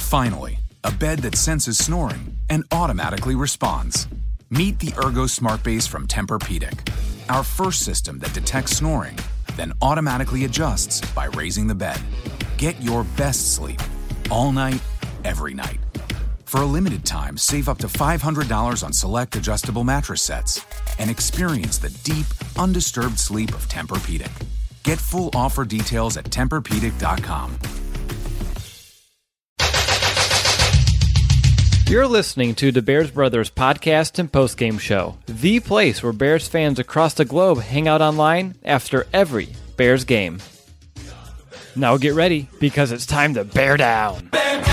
Finally, a bed that senses snoring and automatically responds. Meet the Ergo Smart Base from Tempur-Pedic, our first system that detects snoring, then automatically adjusts by raising the bed. Get your best sleep all night, every night. For a limited time, save up to $500 on select adjustable mattress sets and experience the deep, undisturbed sleep of Tempur-Pedic. Get full offer details at TempurPedic.com. You're listening to the Bears Brothers podcast and postgame show, the place where Bears fans across the globe hang out online after every Bears game. Now get ready, because it's time to bear down.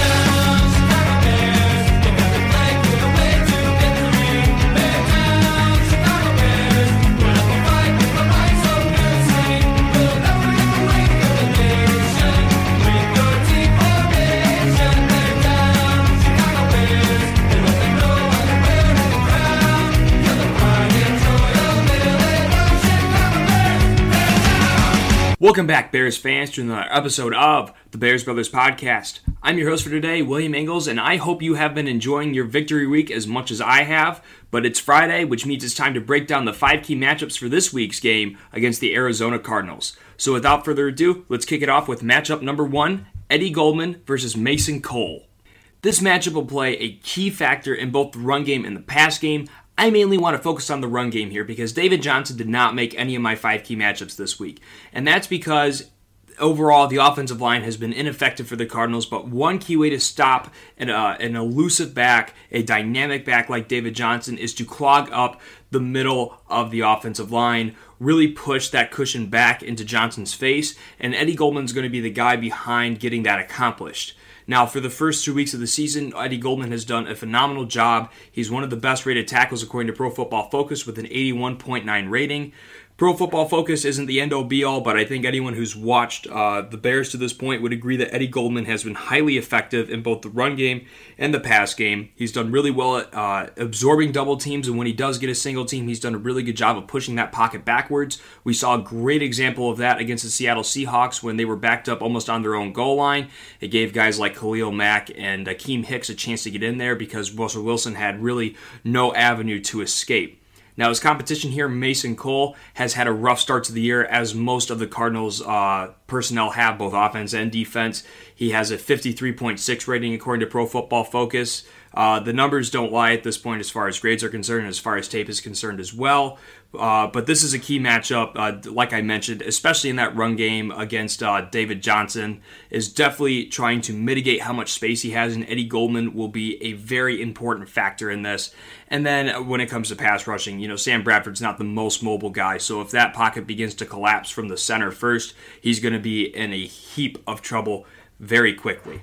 Welcome back, Bears fans, to another episode of the Bears Brothers Podcast. I'm your host for today, William Ingalls, and I hope you have been enjoying your victory week as much as I have. But it's Friday, which means it's time to break down the 5 key matchups for this week's game against the Arizona Cardinals. So without further ado, let's kick it off with matchup number 1, Eddie Goldman versus Mason Cole. This matchup will play a key factor in both the run game and the pass game. I mainly want to focus on the run game here because David Johnson did not make any of my 5 key matchups this week. And that's because overall the offensive line has been ineffective for the Cardinals, but one key way to stop an elusive back, a dynamic back like David Johnson, is to clog up the middle of the offensive line, really push that cushion back into Johnson's face, and Eddie Goldman's going to be the guy behind getting that accomplished. Now, for the first 2 weeks of the season, Eddie Goldman has done a phenomenal job. He's one of the best rated tackles according to Pro Football Focus with an 81.9 rating. Pro Football Focus isn't the end-all be-all, but I think anyone who's watched the Bears to this point would agree that Eddie Goldman has been highly effective in both the run game and the pass game. He's done really well at absorbing double teams, and when he does get a single team, he's done a really good job of pushing that pocket backwards. We saw a great example of that against the Seattle Seahawks when they were backed up almost on their own goal line. It gave guys like Khalil Mack and Akeem Hicks a chance to get in there because Russell Wilson had really no avenue to escape. Now, his competition here, Mason Cole, has had a rough start to the year, as most of the Cardinals' personnel have, both offense and defense. He has a 53.6 rating according to Pro Football Focus. The numbers don't lie at this point as far as grades are concerned and as far as tape is concerned as well. But this is a key matchup, like I mentioned, especially in that run game against David Johnson, is definitely trying to mitigate how much space he has, and Eddie Goldman will be a very important factor in this. And then when it comes to pass rushing, Sam Bradford's not the most mobile guy, so if that pocket begins to collapse from the center first, he's going to be in a heap of trouble very quickly.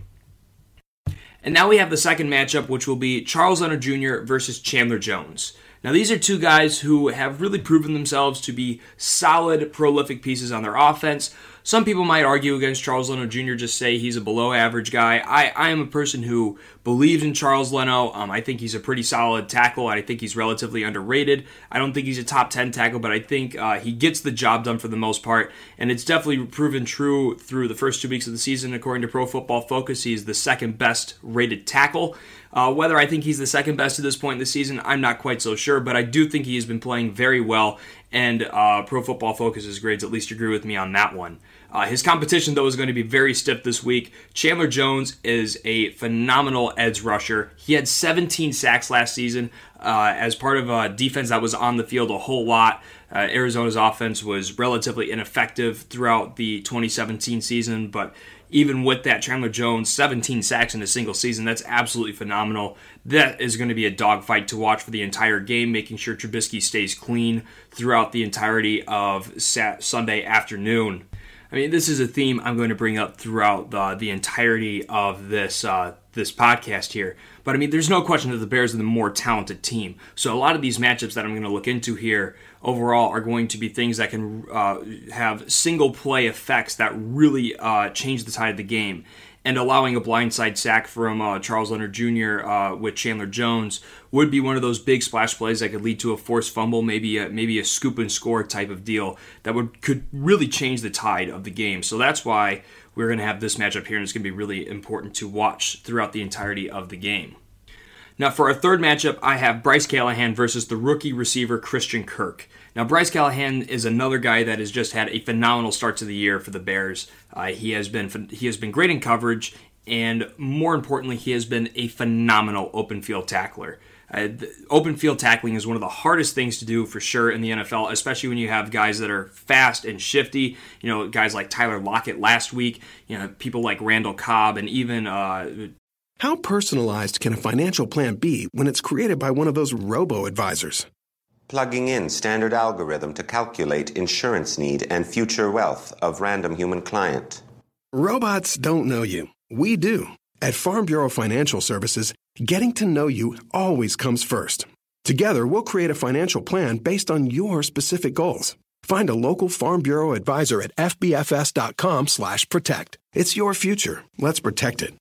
And now we have the second matchup, which will be Charles Leno Jr. versus Chandler Jones. Now, these are two guys who have really proven themselves to be solid, prolific pieces on their offense. Some people might argue against Charles Leno Jr., just say he's a below-average guy. I am a person who believes in Charles Leno. I think he's a pretty solid tackle. I think he's relatively underrated. I don't think he's a top 10 tackle, but I think he gets the job done for the most part, and it's definitely proven true through the first 2 weeks of the season. According to Pro Football Focus, he's the second best rated tackle. Whether I think he's the second best at this point in the season, I'm not quite so sure, but I do think he has been playing very well, and Pro Football Focus's grades at least agree with me on that one. His competition, though, is going to be very stiff this week. Chandler Jones is a phenomenal edge rusher. He had 17 sacks last season as part of a defense that was on the field a whole lot. Arizona's offense was relatively ineffective throughout the 2017 season, but even with that, Chandler Jones, 17 sacks in a single season, that's absolutely phenomenal. That is going to be a dogfight to watch for the entire game, making sure Trubisky stays clean throughout the entirety of Sunday afternoon. I mean, this is a theme I'm going to bring up throughout the entirety of this podcast here. But, I mean, there's no question that the Bears are the more talented team. So a lot of these matchups that I'm going to look into here overall are going to be things that can have single-play effects that really change the tide of the game. And allowing a blindside sack from Charles Leno Jr. With Chandler Jones would be one of those big splash plays that could lead to a forced fumble, maybe a scoop and score type of deal that could really change the tide of the game. So that's why we're going to have this matchup here, and it's going to be really important to watch throughout the entirety of the game. Now, for our third matchup, I have Bryce Callahan versus the rookie receiver Christian Kirk. Now, Bryce Callahan is another guy that has just had a phenomenal start to the year for the Bears. He has been great in coverage, and more importantly, he has been a phenomenal open field tackler. Open field tackling is one of the hardest things to do for sure in the NFL, especially when you have guys that are fast and shifty. You know, guys like Tyler Lockett last week. You know, people like Randall Cobb, and even How personalized can a financial plan be when it's created by one of those robo-advisors? Plugging in standard algorithm to calculate insurance need and future wealth of random human client. Robots don't know you. We do. At Farm Bureau Financial Services, getting to know you always comes first. Together, we'll create a financial plan based on your specific goals. Find a local Farm Bureau advisor at fbfs.com/protect. It's your future. Let's protect it.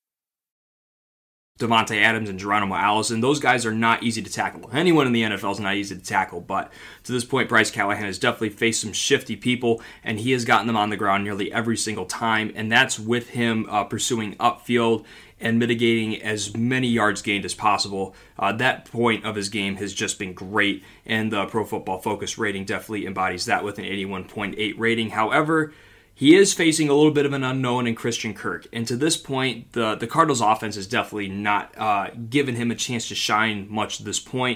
Davante Adams and Geronimo Allison, those guys are not easy to tackle. Anyone in the NFL is not easy to tackle, but to this point, Bryce Callahan has definitely faced some shifty people, and he has gotten them on the ground nearly every single time, and that's with him pursuing upfield and mitigating as many yards gained as possible. That point of his game has just been great, and the Pro Football Focus rating definitely embodies that with an 81.8 rating. However, he is facing a little bit of an unknown in Christian Kirk, and to this point, the Cardinals' offense has definitely not given him a chance to shine much at this point.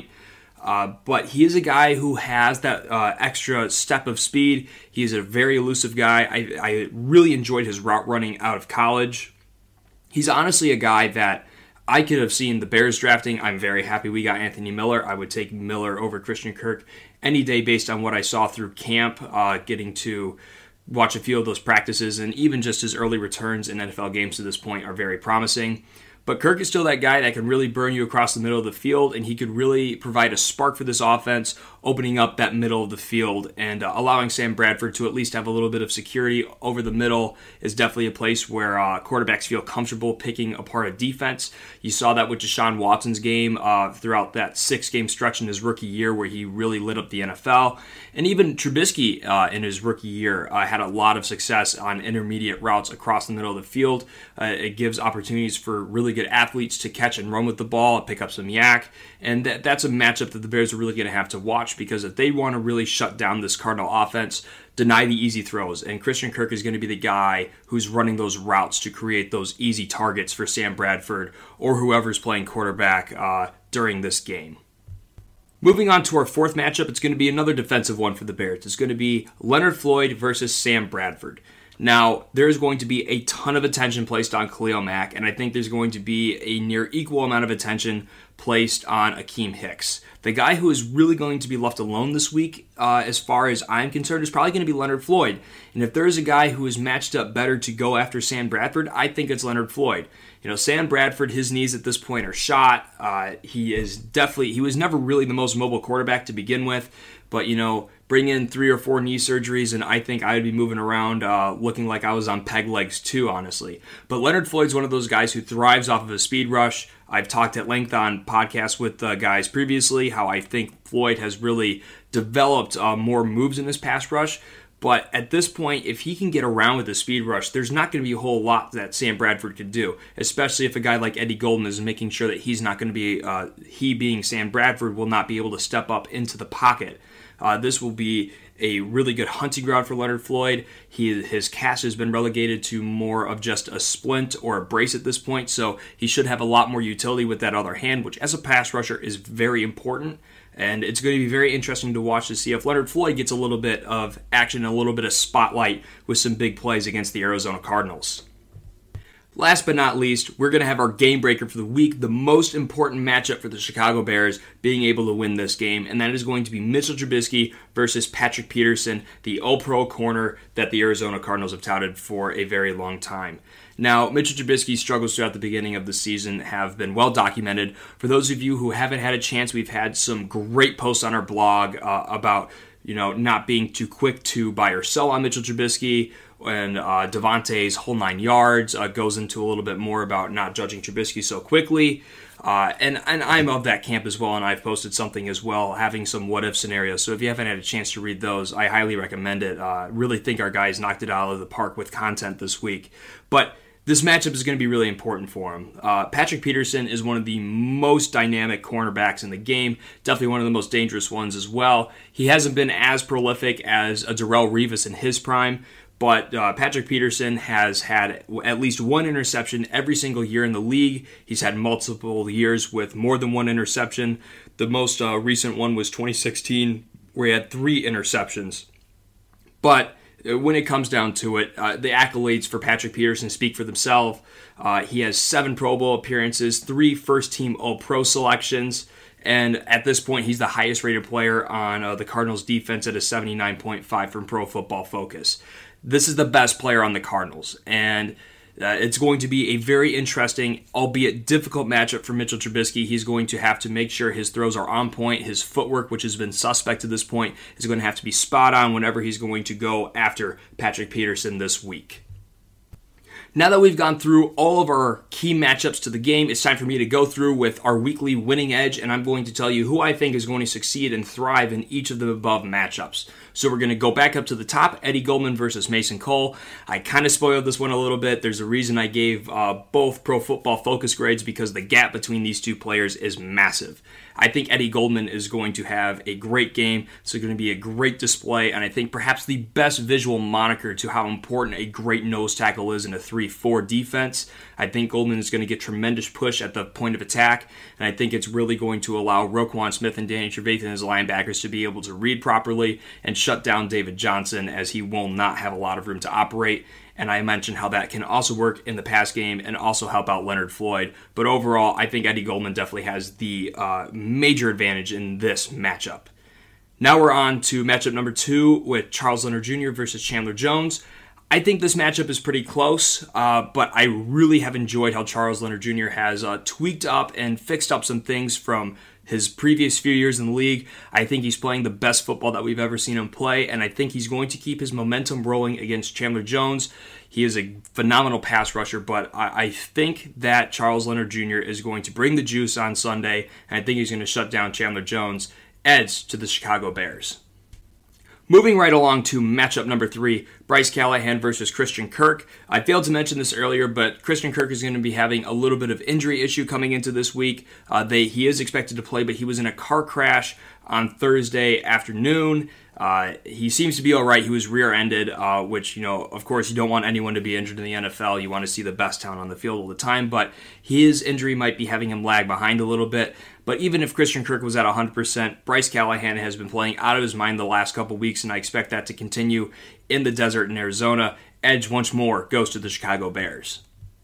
But he is a guy who has that extra step of speed. He is a very elusive guy. I really enjoyed his route running out of college. He's honestly a guy that I could have seen the Bears drafting. I'm very happy we got Anthony Miller. I would take Miller over Christian Kirk any day based on what I saw through camp, getting to watch a few of those practices, and even just his early returns in NFL games to this point are very promising. But Kirk is still that guy that can really burn you across the middle of the field, and he could really provide a spark for this offense, opening up that middle of the field and allowing Sam Bradford to at least have a little bit of security over the middle is definitely a place where quarterbacks feel comfortable picking apart a defense. You saw that with Deshaun Watson's game throughout that 6-game stretch in his rookie year where he really lit up the NFL. And even Trubisky in his rookie year had a lot of success on intermediate routes across the middle of the field. It gives opportunities for really good athletes to catch and run with the ball, pick up some yak, and that's a matchup that the Bears are really going to have to watch, because if they want to really shut down this Cardinal offense, deny the easy throws, and Christian Kirk is going to be the guy who's running those routes to create those easy targets for Sam Bradford or whoever's playing quarterback during this game. Moving on to our fourth matchup, it's going to be another defensive one for the Bears. It's going to be Leonard Floyd versus Sam Bradford. Now, there's going to be a ton of attention placed on Khalil Mack, and I think there's going to be a near equal amount of attention placed on Akeem Hicks. The guy who is really going to be left alone this week, as far as I'm concerned, is probably going to be Leonard Floyd. And if there is a guy who is matched up better to go after Sam Bradford, I think it's Leonard Floyd. You know, Sam Bradford, his knees at this point are shot. He was never really the most mobile quarterback to begin with, but, you know, bring in 3 or 4 knee surgeries, and I think I would be moving around looking like I was on peg legs too, honestly. But Leonard Floyd's one of those guys who thrives off of a speed rush. I've talked at length on podcasts with guys previously how I think Floyd has really developed more moves in this pass rush. But at this point, if he can get around with the speed rush, there's not going to be a whole lot that Sam Bradford could do, especially if a guy like Eddie Golden is making sure that he's not going to be, he being Sam Bradford, will not be able to step up into the pocket. This will be a really good hunting ground for Leonard Floyd. His cast has been relegated to more of just a splint or a brace at this point, so he should have a lot more utility with that other hand, which as a pass rusher is very important. And it's going to be very interesting to watch to see if Leonard Floyd gets a little bit of action, a little bit of spotlight with some big plays against the Arizona Cardinals. Last but not least, we're going to have our game breaker for the week, the most important matchup for the Chicago Bears being able to win this game, and that is going to be Mitchell Trubisky versus Patrick Peterson, the all-pro corner that the Arizona Cardinals have touted for a very long time. Now, Mitchell Trubisky's struggles throughout the beginning of the season have been well documented. For those of you who haven't had a chance, we've had some great posts on our blog about not being too quick to buy or sell on Mitchell Trubisky, and Devontae's whole 9 yards, goes into a little bit more about not judging Trubisky so quickly. And I'm of that camp as well, and I've posted something as well, having some what-if scenarios. So if you haven't had a chance to read those, I highly recommend it. Really think our guys knocked it out of the park with content this week. But this matchup is going to be really important for him. Patrick Peterson is one of the most dynamic cornerbacks in the game, definitely one of the most dangerous ones as well. He hasn't been as prolific as a Darrelle Revis in his prime, but Patrick Peterson has had at least one interception every single year in the league. He's had multiple years with more than one interception. The most recent one was 2016, where he had 3 interceptions. But when it comes down to it, the accolades for Patrick Peterson speak for themselves. He has 7 Pro Bowl appearances, 3 first-team All-Pro selections, and at this point, he's the highest-rated player on the Cardinals' defense at a 79.5 from Pro Football Focus. This is the best player on the Cardinals, and it's going to be a very interesting, albeit difficult matchup for Mitchell Trubisky. He's going to have to make sure his throws are on point. His footwork, which has been suspect to this point, is going to have to be spot on whenever he's going to go after Patrick Peterson this week. Now that we've gone through all of our key matchups to the game, it's time for me to go through with our weekly winning edge, and I'm going to tell you who I think is going to succeed and thrive in each of the above matchups. So we're going to go back up to the top, Eddie Goldman versus Mason Cole. I kind of spoiled this one a little bit. There's a reason I gave both Pro Football Focus grades, because the gap between these two players is massive. I think Eddie Goldman is going to have a great game. It's going to be a great display, and I think perhaps the best visual moniker to how important a great nose tackle is in a 3-4 defense. I think Goldman is going to get tremendous push at the point of attack, and I think it's really going to allow Roquan Smith and Danny Trevathan as linebackers to be able to read properly and shut down David Johnson, as he will not have a lot of room to operate. And I mentioned how that can also work in the pass game and also help out Leonard Floyd. But overall, I think Eddie Goldman definitely has the major advantage in this matchup. Now we're on to matchup number 2 with Charles Leonard Jr. versus Chandler Jones. I think this matchup is pretty close, but I really have enjoyed how Charles Leonard Jr. has tweaked up and fixed up some things from his previous few years in the league. I think he's playing the best football that we've ever seen him play, and I think he's going to keep his momentum rolling against Chandler Jones. He is a phenomenal pass rusher, but I think that Charles Leonard Jr. is going to bring the juice on Sunday, and I think he's going to shut down Chandler Jones. Edge to the Chicago Bears. Moving right along to matchup number 3, Bryce Callahan versus Christian Kirk. I failed to mention this earlier, but Christian Kirk is going to be having a little bit of injury issue coming into this week. He is expected to play, but he was in a car crash on Thursday afternoon. He seems to be all right. He was rear-ended, which, of course, you don't want anyone to be injured in the NFL. You want to see the best talent on the field all the time, but his injury might be having him lag behind a little bit. But even if Christian Kirk was at 100%, Bryce Callahan has been playing out of his mind the last couple weeks, and I expect that to continue in the desert in Arizona. Edge once more goes to the Chicago Bears.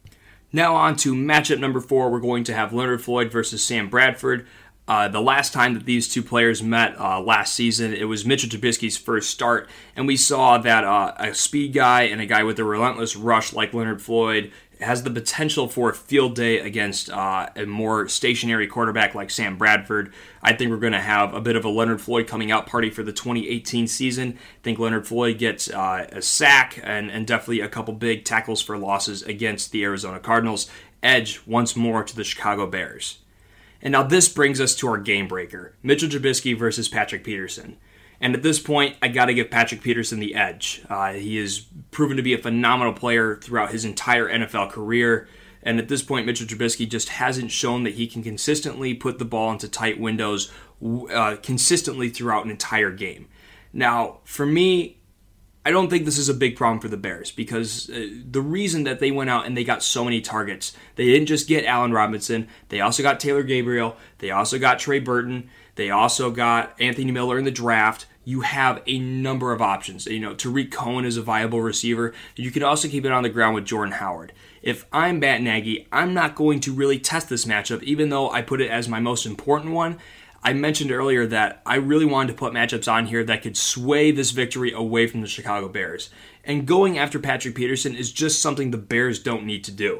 Now on to matchup number 4. We're going to have Leonard Floyd versus Sam Bradford. The last time that these two players met last season, it was Mitchell Trubisky's first start, and we saw that a speed guy and a guy with a relentless rush like Leonard Floyd has the potential for a field day against a more stationary quarterback like Sam Bradford. I think we're going to have a bit of a Leonard Floyd coming out party for the 2018 season. I think Leonard Floyd gets a sack and definitely a couple big tackles for losses against the Arizona Cardinals. Edge once more to the Chicago Bears. And now this brings us to our game breaker, Mitchell Trubisky versus Patrick Peterson. And at this point, I got to give Patrick Peterson the edge. He has proven to be a phenomenal player throughout his entire NFL career. And at this point, Mitchell Trubisky just hasn't shown that he can consistently put the ball into tight windows consistently throughout an entire game. Now, for me, I don't think this is a big problem for the Bears, because the reason that they went out and they got so many targets, they didn't just get Allen Robinson, they also got Taylor Gabriel, they also got Trey Burton, they also got Anthony Miller in the draft. You have a number of options. Tariq Cohen is a viable receiver. You can also keep it on the ground with Jordan Howard. If I'm Matt Nagy, I'm not going to really test this matchup, even though I put it as my most important one. I mentioned earlier that I really wanted to put matchups on here that could sway this victory away from the Chicago Bears. And going after Patrick Peterson is just something the Bears don't need to do.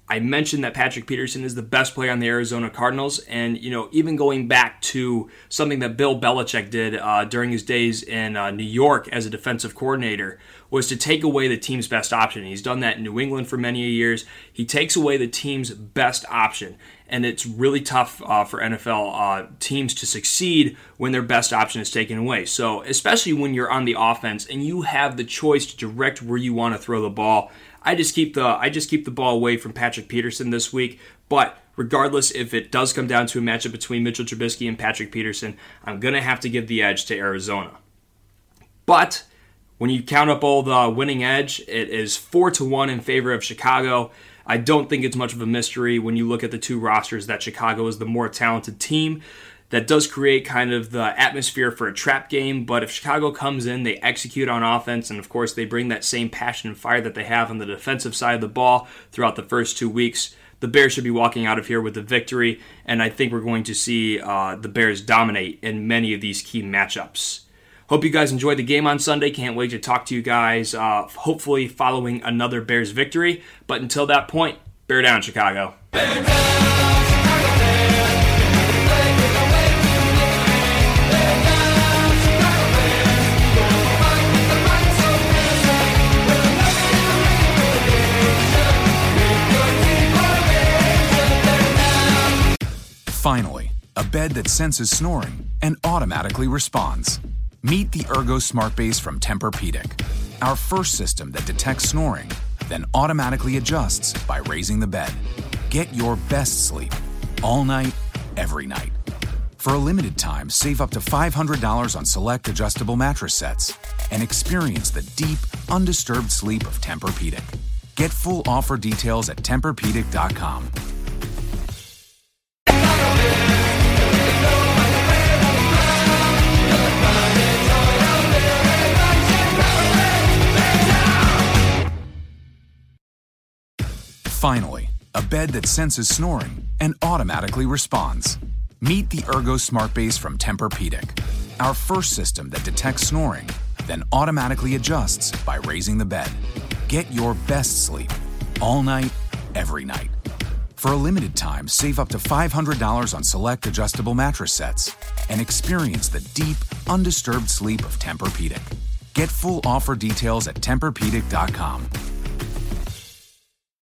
I mentioned that Patrick Peterson is the best player on the Arizona Cardinals, and even going back to something that Bill Belichick did during his days in New York as a defensive coordinator was to take away the team's best option. He's done that in New England for many years. He takes away the team's best option, and it's really tough for NFL teams to succeed when their best option is taken away. So especially when you're on the offense and you have the choice to direct where you want to throw the ball, I just keep the ball away from Patrick Peterson this week. But regardless, if it does come down to a matchup between Mitchell Trubisky and Patrick Peterson, I'm going to have to give the edge to Arizona. But when you count up all the winning edge, it is 4-1 in favor of Chicago. I don't think it's much of a mystery when you look at the two rosters that Chicago is the more talented team. That does create kind of the atmosphere for a trap game, but if Chicago comes in, they execute on offense, and of course they bring that same passion and fire that they have on the defensive side of the ball throughout the first 2 weeks, the Bears should be walking out of here with the victory, and I think we're going to see the Bears dominate in many of these key matchups. Hope you guys enjoyed the game on Sunday. Can't wait to talk to you guys, hopefully following another Bears victory, but until that point, bear down, Chicago. Bear down! Finally, a bed that senses snoring and automatically responds. Meet the Ergo Smart Base from Tempur-Pedic, our first system that detects snoring, then automatically adjusts by raising the bed. Get your best sleep all night, every night. For a limited time, save up to $500 on select adjustable mattress sets and experience the deep, undisturbed sleep of Tempur-Pedic. Get full offer details at TempurPedic.com. Finally, a bed that senses snoring and automatically responds. Meet the Ergo Smart Base from Tempur-Pedic, our first system that detects snoring, then automatically adjusts by raising the bed. Get your best sleep all night, every night. For a limited time, save up to $500 on select adjustable mattress sets and experience the deep, undisturbed sleep of Tempur-Pedic. Get full offer details at TempurPedic.com.